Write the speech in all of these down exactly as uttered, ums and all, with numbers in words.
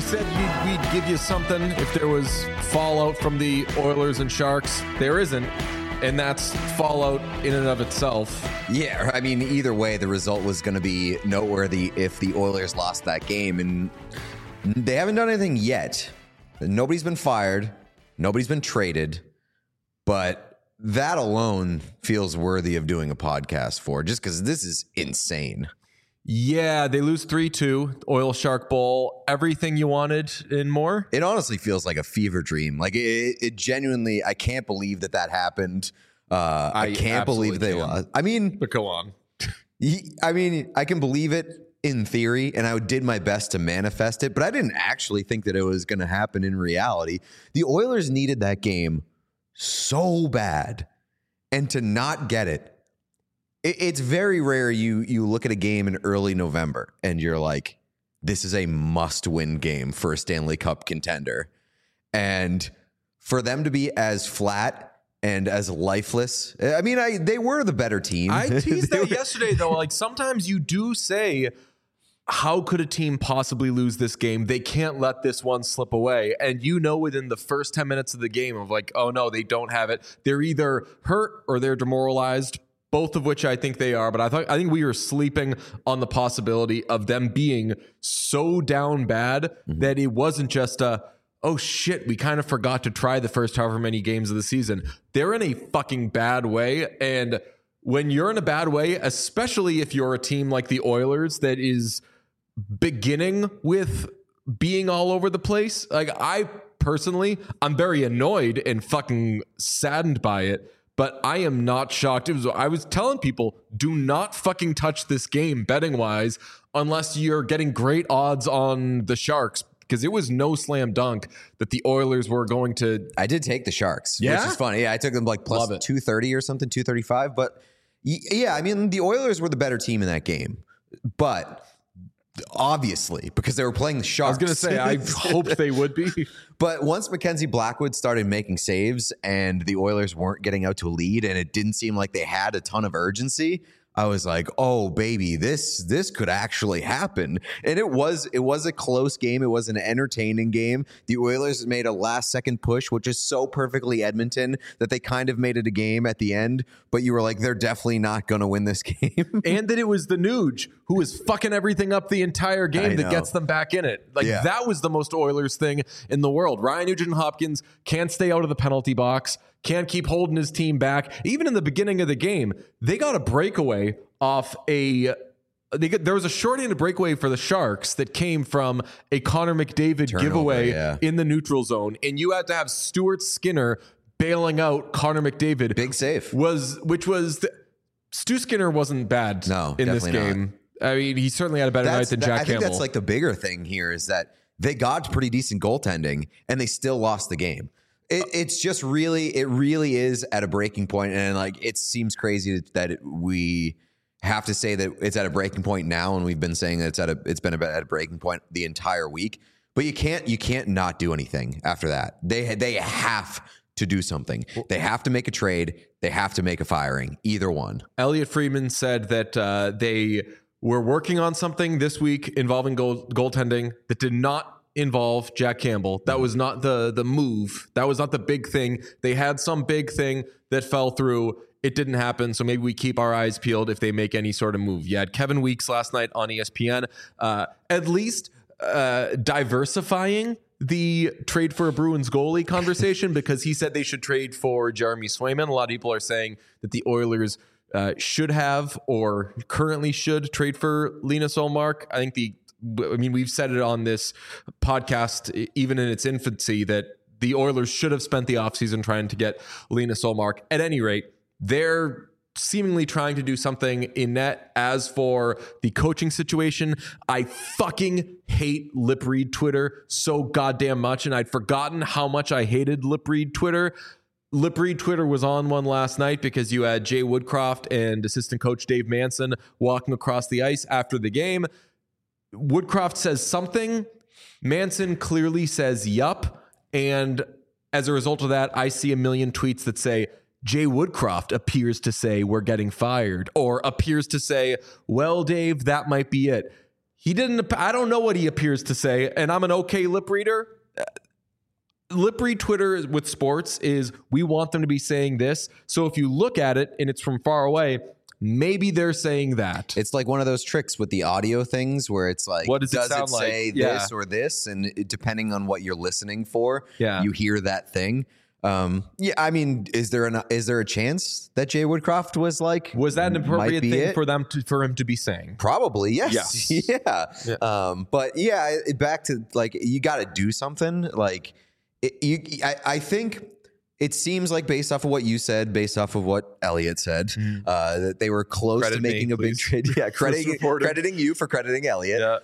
said you'd, we'd give you something if there was fallout from the Oilers and Sharks. There isn't, and that's fallout in and of itself. Yeah, I mean, either way, the result was going to be noteworthy if the Oilers lost that game, and they haven't done anything yet. Nobody's been fired. Nobody's been traded, but that alone feels worthy of doing a podcast for, just because this is insane. Yeah, they lose three two, Oil Shark Bowl, everything you wanted and more. It honestly feels like a fever dream. Like it, it genuinely, I can't believe that that happened. Uh, I, I can't believe they lost. I mean, but go on. I mean, I can believe it in theory, and I did my best to manifest it, but I didn't actually think that it was going to happen in reality. The Oilers needed that game so bad, and to not get it, it's very rare you you look at a game in early November and you're like, this is a must-win game for a Stanley Cup contender. And for them to be as flat and as lifeless, I mean, I they were the better team. I teased that yesterday, though. Like, sometimes you do say, how could a team possibly lose this game? They can't let this one slip away. And you know within the first ten minutes of the game of like, oh, no, they don't have it. They're either hurt or they're demoralized. Both of which I think they are, but I thought I think we were sleeping on the possibility of them being so down bad mm-hmm. that it wasn't just a, oh shit, we kind of forgot to try the first however many games of the season. They're in a fucking bad way, and when you're in a bad way, especially if you're a team like the Oilers that is beginning with being all over the place, like I personally, I'm very annoyed and fucking saddened by it. But I am not shocked. It was, I was telling people, do not fucking touch this game betting wise unless you're getting great odds on the Sharks, because it was no slam dunk that the Oilers were going to. I did take the Sharks, yeah? which is funny. Yeah, I took them like plus two thirty or something, two thirty-five. But yeah, I mean, the Oilers were the better team in that game. But obviously, because they were playing the Sharks. I was going to say, I hoped they would be. But once Mackenzie Blackwood started making saves and the Oilers weren't getting out to a lead and it didn't seem like they had a ton of urgency, I was like, oh, baby, this this could actually happen. And it was it was a close game. It was an entertaining game. The Oilers made a last-second push, which is so perfectly Edmonton that they kind of made it a game at the end. But you were like, they're definitely not going to win this game. And that it was the Nuge who was fucking everything up the entire game that gets them back in it. Like, yeah. That was the most Oilers thing in the world. Ryan Nugent-Hopkins can't stay out of the penalty box. Can't keep holding his team back. Even in the beginning of the game, they got a breakaway off a... They get, there was a shorthanded breakaway for the Sharks that came from a Connor McDavid Turnover, giveaway yeah. in the neutral zone. And you had to have Stuart Skinner bailing out Connor McDavid. Big save. Was, which was... The, Stu Skinner wasn't bad no, in this game. Not. I mean, he certainly had a better that's, night than Jack I Campbell. I think that's like the bigger thing here is that they got pretty decent goaltending and they still lost the game. It, it's just really, it really is at a breaking point, and like it seems crazy that it, we have to say that it's at a breaking point now, and we've been saying that it's at a, it's been at a breaking point the entire week. But you can't, you can't not do anything after that. They they have to do something. They have to make a trade. They have to make a firing. Either one. Elliot Friedman said that uh, they were working on something this week involving goal, goaltending that did not involve Jack Campbell. That was not the the move. That was not the big thing. They had some big thing that fell through. It didn't happen. So maybe we keep our eyes peeled if they make any sort of move. You had Kevin Weeks last night on E S P N, uh, at least uh, diversifying the trade for a Bruins goalie conversation because he said they should trade for Jeremy Swayman. A lot of people are saying that the Oilers uh, should have or currently should trade for Linus Ullmark. I think the I mean, we've said it on this podcast, even in its infancy, that the Oilers should have spent the offseason trying to get Linus Ullmark. At any rate, they're seemingly trying to do something in net. As for the coaching situation, I fucking hate Lip Read Twitter so goddamn much, and I'd forgotten how much I hated Lip Read Twitter. Lip Read Twitter was on one last night because you had Jay Woodcroft and assistant coach Dave Manson walking across the ice after the game. Woodcroft says something. Manson clearly says yup. And as a result of that, I see a million tweets that say, Jay Woodcroft appears to say we're getting fired, or appears to say, well, Dave, that might be it. He didn't. I don't know what he appears to say, and I'm an okay lip reader. Lip read Twitter with sports is we want them to be saying this. So if you look at it and it's from far away, maybe they're saying that. It's like one of those tricks with the audio things where it's like, what does, does it, sound it say like? this yeah. or this? And it, depending on what you're listening for, yeah. you hear that thing. Um, yeah, I mean, is there an is there a chance that Jay Woodcroft was like, was that an appropriate thing it? for them to for him to be saying? Probably, yes. yes. yeah. yeah. Um, but yeah, it, back to like, you got to do something. Like, it, you, I, I think it seems like based off of what you said, based off of what Elliot said, mm. uh, that they were close Credit to making me, a please. big trade. Yeah, crediting, crediting you for crediting Elliot. Yeah.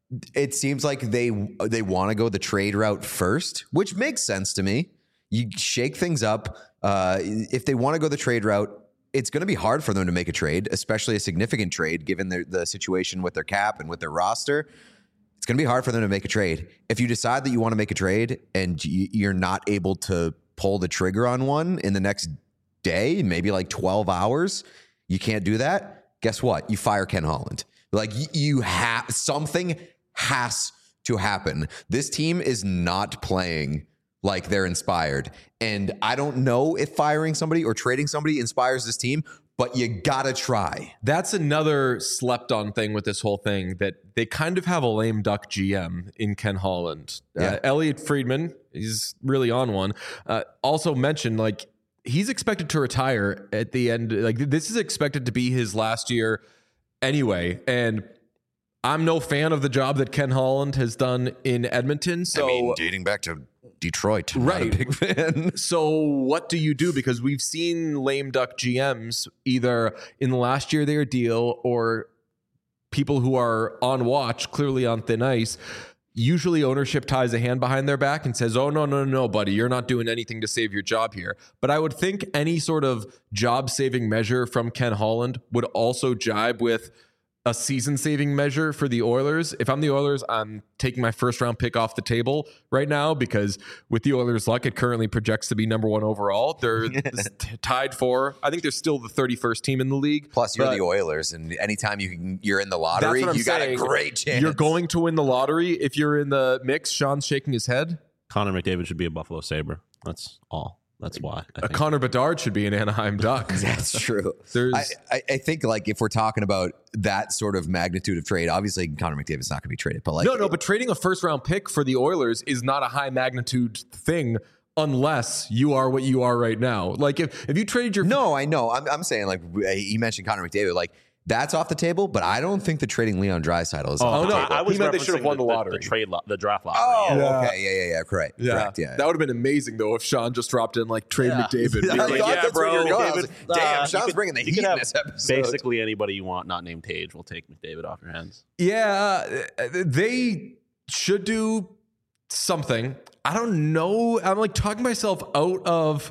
It seems like they they want to go the trade route first, which makes sense to me. You shake things up. Uh, if they want to go the trade route, it's going to be hard for them to make a trade, especially a significant trade, given the, the situation with their cap and with their roster. It's going to be hard for them to make a trade. If you decide that you want to make a trade and you're not able to pull the trigger on one in the next day, maybe like twelve hours, you can't do that. Guess what? You fire Ken Holland. Like you have something has to happen. This team is not playing like they're inspired. And I don't know if firing somebody or trading somebody inspires this team, but you gotta try. That's another slept on thing with this whole thing, that they kind of have a lame duck G M in Ken Holland. Yeah. Uh, Elliot Friedman, he's really on one. Uh, also mentioned, like, he's expected to retire at the end. Like, this is expected to be his last year anyway. And I'm no fan of the job that Ken Holland has done in Edmonton. So I mean, dating back to Detroit, right? Not a big fan. So what do you do? Because we've seen lame duck G Ms either in the last year of their deal or people who are on watch, clearly on thin ice. Usually ownership ties a hand behind their back and says, oh, no, no, no, buddy, you're not doing anything to save your job here. But I would think any sort of job-saving measure from Ken Holland would also jibe with a season-saving measure for the Oilers. If I'm the Oilers, I'm taking my first-round pick off the table right now, because with the Oilers' luck, it currently projects to be number one overall. They're t- tied for, I think they're still the thirty-first team in the league. Plus, you're the Oilers, and anytime you can, you're in the lottery, you saying. got a great chance. You're going to win the lottery if you're in the mix. Sean's shaking his head. Connor McDavid should be a Buffalo Sabre. That's all. That's why. A Connor Bedard should be an Anaheim Duck. That's true. There's, I, I, I think like if we're talking about that sort of magnitude of trade, obviously Connor McDavid's not going to be traded. But like, no, no, but trading a first round pick for the Oilers is not a high magnitude thing unless you are what you are right now. Like if, if you traded your no, I know. I'm I'm saying like you mentioned Connor McDavid, like. That's off the table, but I don't think the trading Leon Draisaitl is oh, off the no, table. I, I was he meant they should have won the, the lottery. The, the trade, lo- the draft lottery. Oh, Yeah. okay, yeah, yeah, yeah, correct, Yeah. correct, yeah. That would have been amazing though if Sean just dropped in like trade Yeah. McDavid. I Be thought like, yeah, that's bro, where you're going. I was McDavid, like, Damn, uh, Sean's could, bringing the you heat could in have this episode. Basically, anybody you want, not named Tage, will take McDavid off your hands. yeah, uh, they should do something. I don't know. I'm like talking myself out of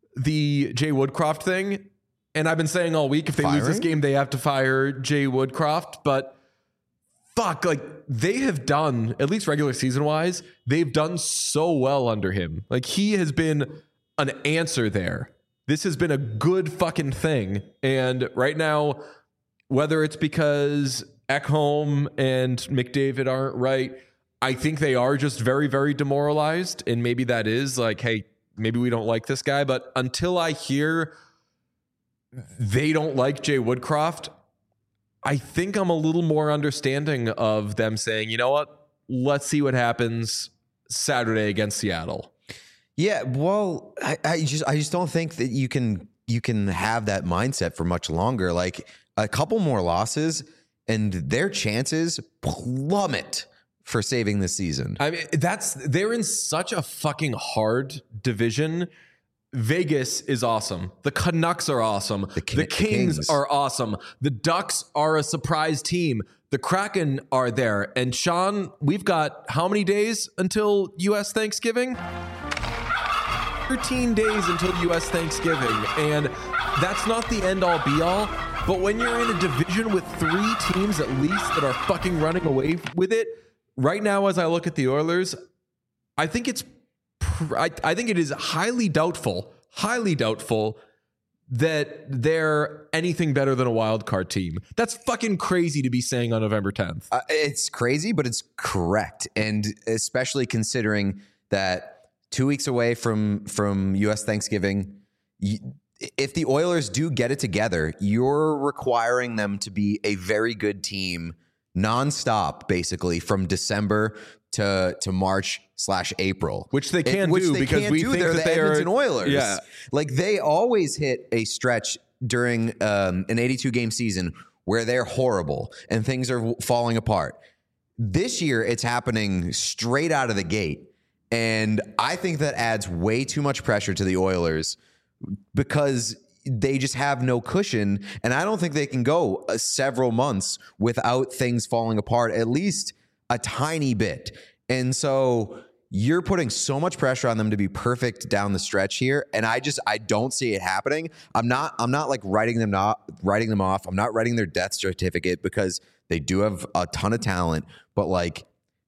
the Jay Woodcroft thing. And I've been saying all week, if they lose this Firing? game, they have to fire Jay Woodcroft. But fuck, like they have done, at least regular season wise, they've done so well under him. Like he has been an answer there. This has been a good fucking thing. And right now, whether it's because Ekholm and McDavid aren't right, I think they are just very, very demoralized. And maybe that is like, hey, maybe we don't like this guy. But until I hear they don't like Jay Woodcroft, I think I'm a little more understanding of them saying, you know what, let's see what happens Saturday against Seattle. Yeah, well, I, I just I just don't think that you can you can have that mindset for much longer. Like a couple more losses and their chances plummet for saving this season. I mean, that's they're in such a fucking hard division. Vegas is awesome. The Canucks are awesome. The, King- the Kings, Kings are awesome. The Ducks are a surprise team. The Kraken are there. And Sean, we've got how many days until U S Thanksgiving? thirteen days until U S Thanksgiving. And that's not the end all be all. But when you're in a division with three teams at least that are fucking running away with it, right now as I look at the Oilers, I think it's I, I think it is highly doubtful, highly doubtful that they're anything better than a wild card team. That's fucking crazy to be saying on November tenth. Uh, it's crazy, but it's correct. And especially considering that two weeks away from, from U S Thanksgiving, you, if the Oilers do get it together, you're requiring them to be a very good team nonstop, basically, from December to to March slash April, which they can it, which do they because can't we do. think They're that the they Edmonton are Oilers. Yeah, like they always hit a stretch during um, an eighty-two game season where they're horrible and things are falling apart. This year, it's happening straight out of the gate, and I think that adds way too much pressure to the Oilers because they just have no cushion, and I don't think they can go uh, several months without things falling apart, at least a tiny bit. And so you're putting so much pressure on them to be perfect down the stretch here, and I just I don't see it happening. I'm not I'm not like writing them not writing them off. I'm not writing their death certificate because they do have a ton of talent, but like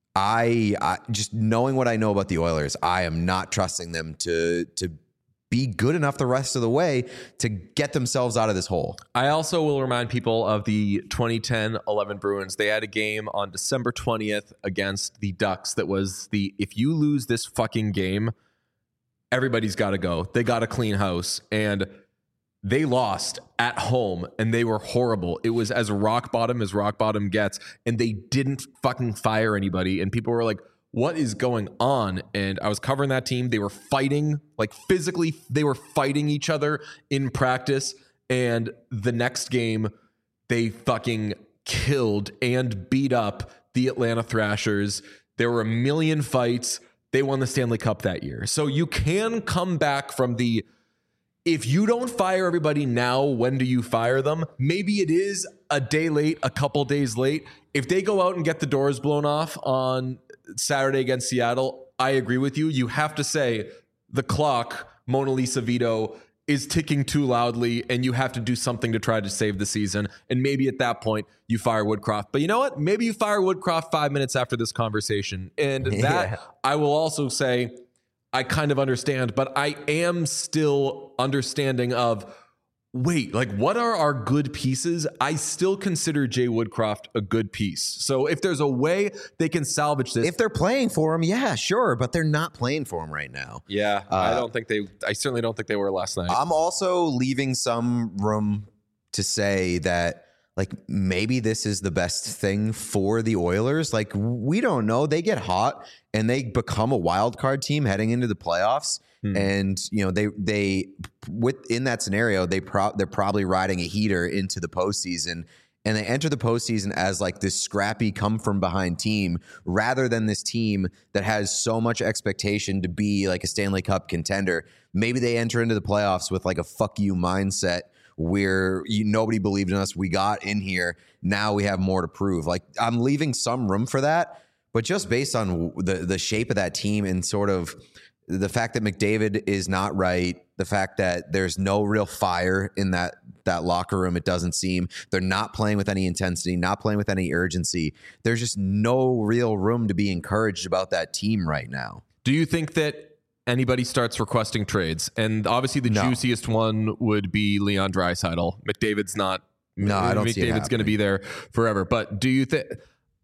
I, I just knowing what I know about the Oilers, I am not trusting them to to be good enough the rest of the way to get themselves out of this hole. I also will remind people of the twenty ten eleven Bruins. They had a game on December twentieth against the Ducks that was the, if you lose this fucking game, everybody's got to go. They got to clean house. And they lost at home and they were horrible. It was as rock bottom as rock bottom gets. And they didn't fucking fire anybody. And people were like, what is going on? And I was covering that team. They were fighting, like physically, they were fighting each other in practice. And the next game, they fucking killed and beat up the Atlanta Thrashers. There were a million fights. They won the Stanley Cup that year. So you can come back from the, if you don't fire everybody now, when do you fire them? Maybe it is a day late, a couple days late. If they go out and get the doors blown off on Saturday against Seattle, I agree with you. You have to say the clock, Mona Lisa Vito, is ticking too loudly and you have to do something to try to save the season. And maybe at that point you fire Woodcroft. But you know what? Maybe you fire Woodcroft five minutes after this conversation. And that yeah. I will also say I kind of understand, but I am still understanding of, wait, like what are our good pieces? I still consider Jay Woodcroft a good piece. So if there's a way they can salvage this. If they're playing for him, yeah, sure. But they're not playing for him right now. Yeah, uh, I don't think they, I certainly don't think they were last night. I'm also leaving some room to say that like maybe this is the best thing for the Oilers. Like we don't know. They get hot and they become a wild card team heading into the playoffs. Hmm. And you know they they within that scenario they pro- they're probably riding a heater into the postseason, and they enter the postseason as like this scrappy come from behind team rather than this team that has so much expectation to be like a Stanley Cup contender. Maybe they enter into the playoffs with like a fuck you mindset where you, nobody believed in us. We got in here. Now we have more to prove. Like I'm leaving some room for that, but just based on the the shape of that team and sort of the fact that McDavid is not right, the fact that there's no real fire in that that locker room, it doesn't seem. They're not playing with any intensity, not playing with any urgency. There's just no real room to be encouraged about that team right now. Do you think that anybody starts requesting trades? And obviously the no. juiciest one would be Leon Draisaitl. McDavid's not. No, I don't see it McDavid's going to be there forever. But do you think...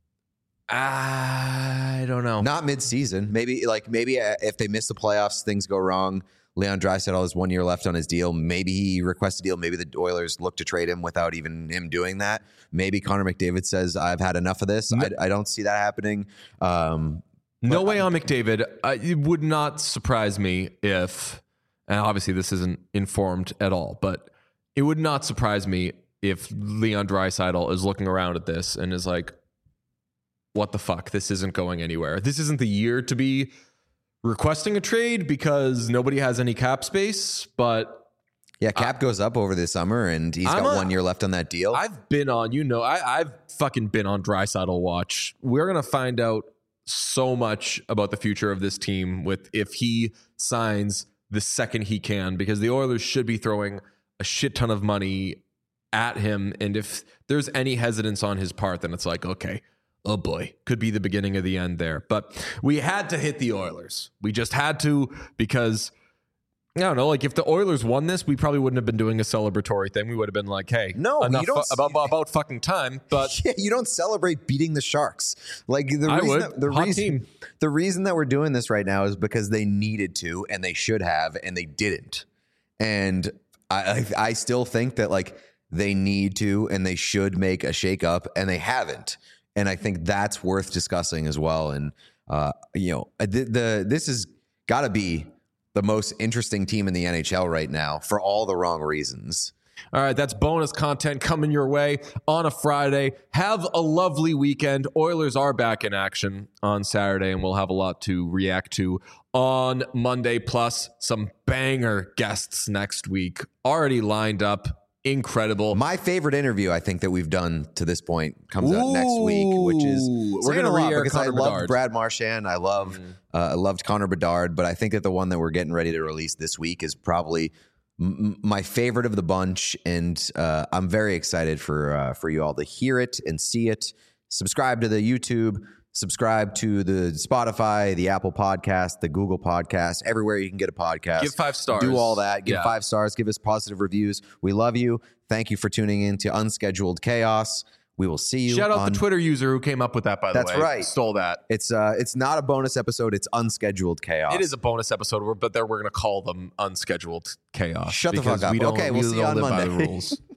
I don't know. Not mid-season. Maybe like maybe if they miss the playoffs, things go wrong. Leon Draisaitl has one year left on his deal. Maybe he requests a deal. Maybe the Oilers look to trade him without even him doing that. Maybe Connor McDavid says, I've had enough of this. No. I, I don't see that happening. Um, no way on McDavid. Uh, it would not surprise me if, and obviously this isn't informed at all, but it would not surprise me if Leon Draisaitl is looking around at this and is like, what the fuck? This isn't going anywhere. This isn't the year to be requesting a trade because nobody has any cap space, but yeah, cap uh, goes up over the summer and he's I'm got a, one year left on that deal. I've been on, you know, I, I've fucking been on Draisaitl watch. We're going to find out so much about the future of this team with if he signs the second he can, because the Oilers should be throwing a shit ton of money at him. And if there's any hesitance on his part, then it's like, okay, oh boy, could be the beginning of the end there. But we had to hit the Oilers. We just had to, because I don't know. Like if the Oilers won this, we probably wouldn't have been doing a celebratory thing. We would have been like, "Hey, No, enough you don't- fu- about about fucking time." But Yeah, you don't celebrate beating the Sharks. Like the I reason would. That, the Hot reason team. the reason that we're doing this right now is because they needed to and they should have and they didn't. And I I, I still think that like they need to and they should make a shakeup and they haven't. And I think that's worth discussing as well. And uh, you know, the, the this has got to be the most interesting team in the N H L right now for all the wrong reasons. all right, that's bonus content coming your way on a Friday. Have a lovely weekend. Oilers are back in action on Saturday, and we'll have a lot to react to on Monday, plus some banger guests next week already lined up. Incredible. My favorite interview, I think, that we've done to this point comes out next week, which is Ooh, we're saying gonna a lot re-air because I Connor love Bedard. Brad Marchand. I love, uh, I loved Connor Bedard, but I think that the one that we're getting ready to release this week is probably m- my favorite of the bunch, and uh, I'm very excited for uh, for you all to hear it and see it. Subscribe to the YouTube. Subscribe to the Spotify, the Apple Podcast, the Google Podcast, everywhere you can get a podcast. Give five stars. Do all that. Give Yeah. five stars. Give us positive reviews. We love you. Thank you for tuning in to Unscheduled Chaos. We will see you. Shout out on, the Twitter user who came up with that, by the That's way. right. Stole that. It's uh, it's not a bonus episode. It's Unscheduled Chaos. It is a bonus episode, but there we're going to call them unscheduled chaos. Shut the because fuck up. We don't, Okay, we we'll see you don't on live by the Monday. rules.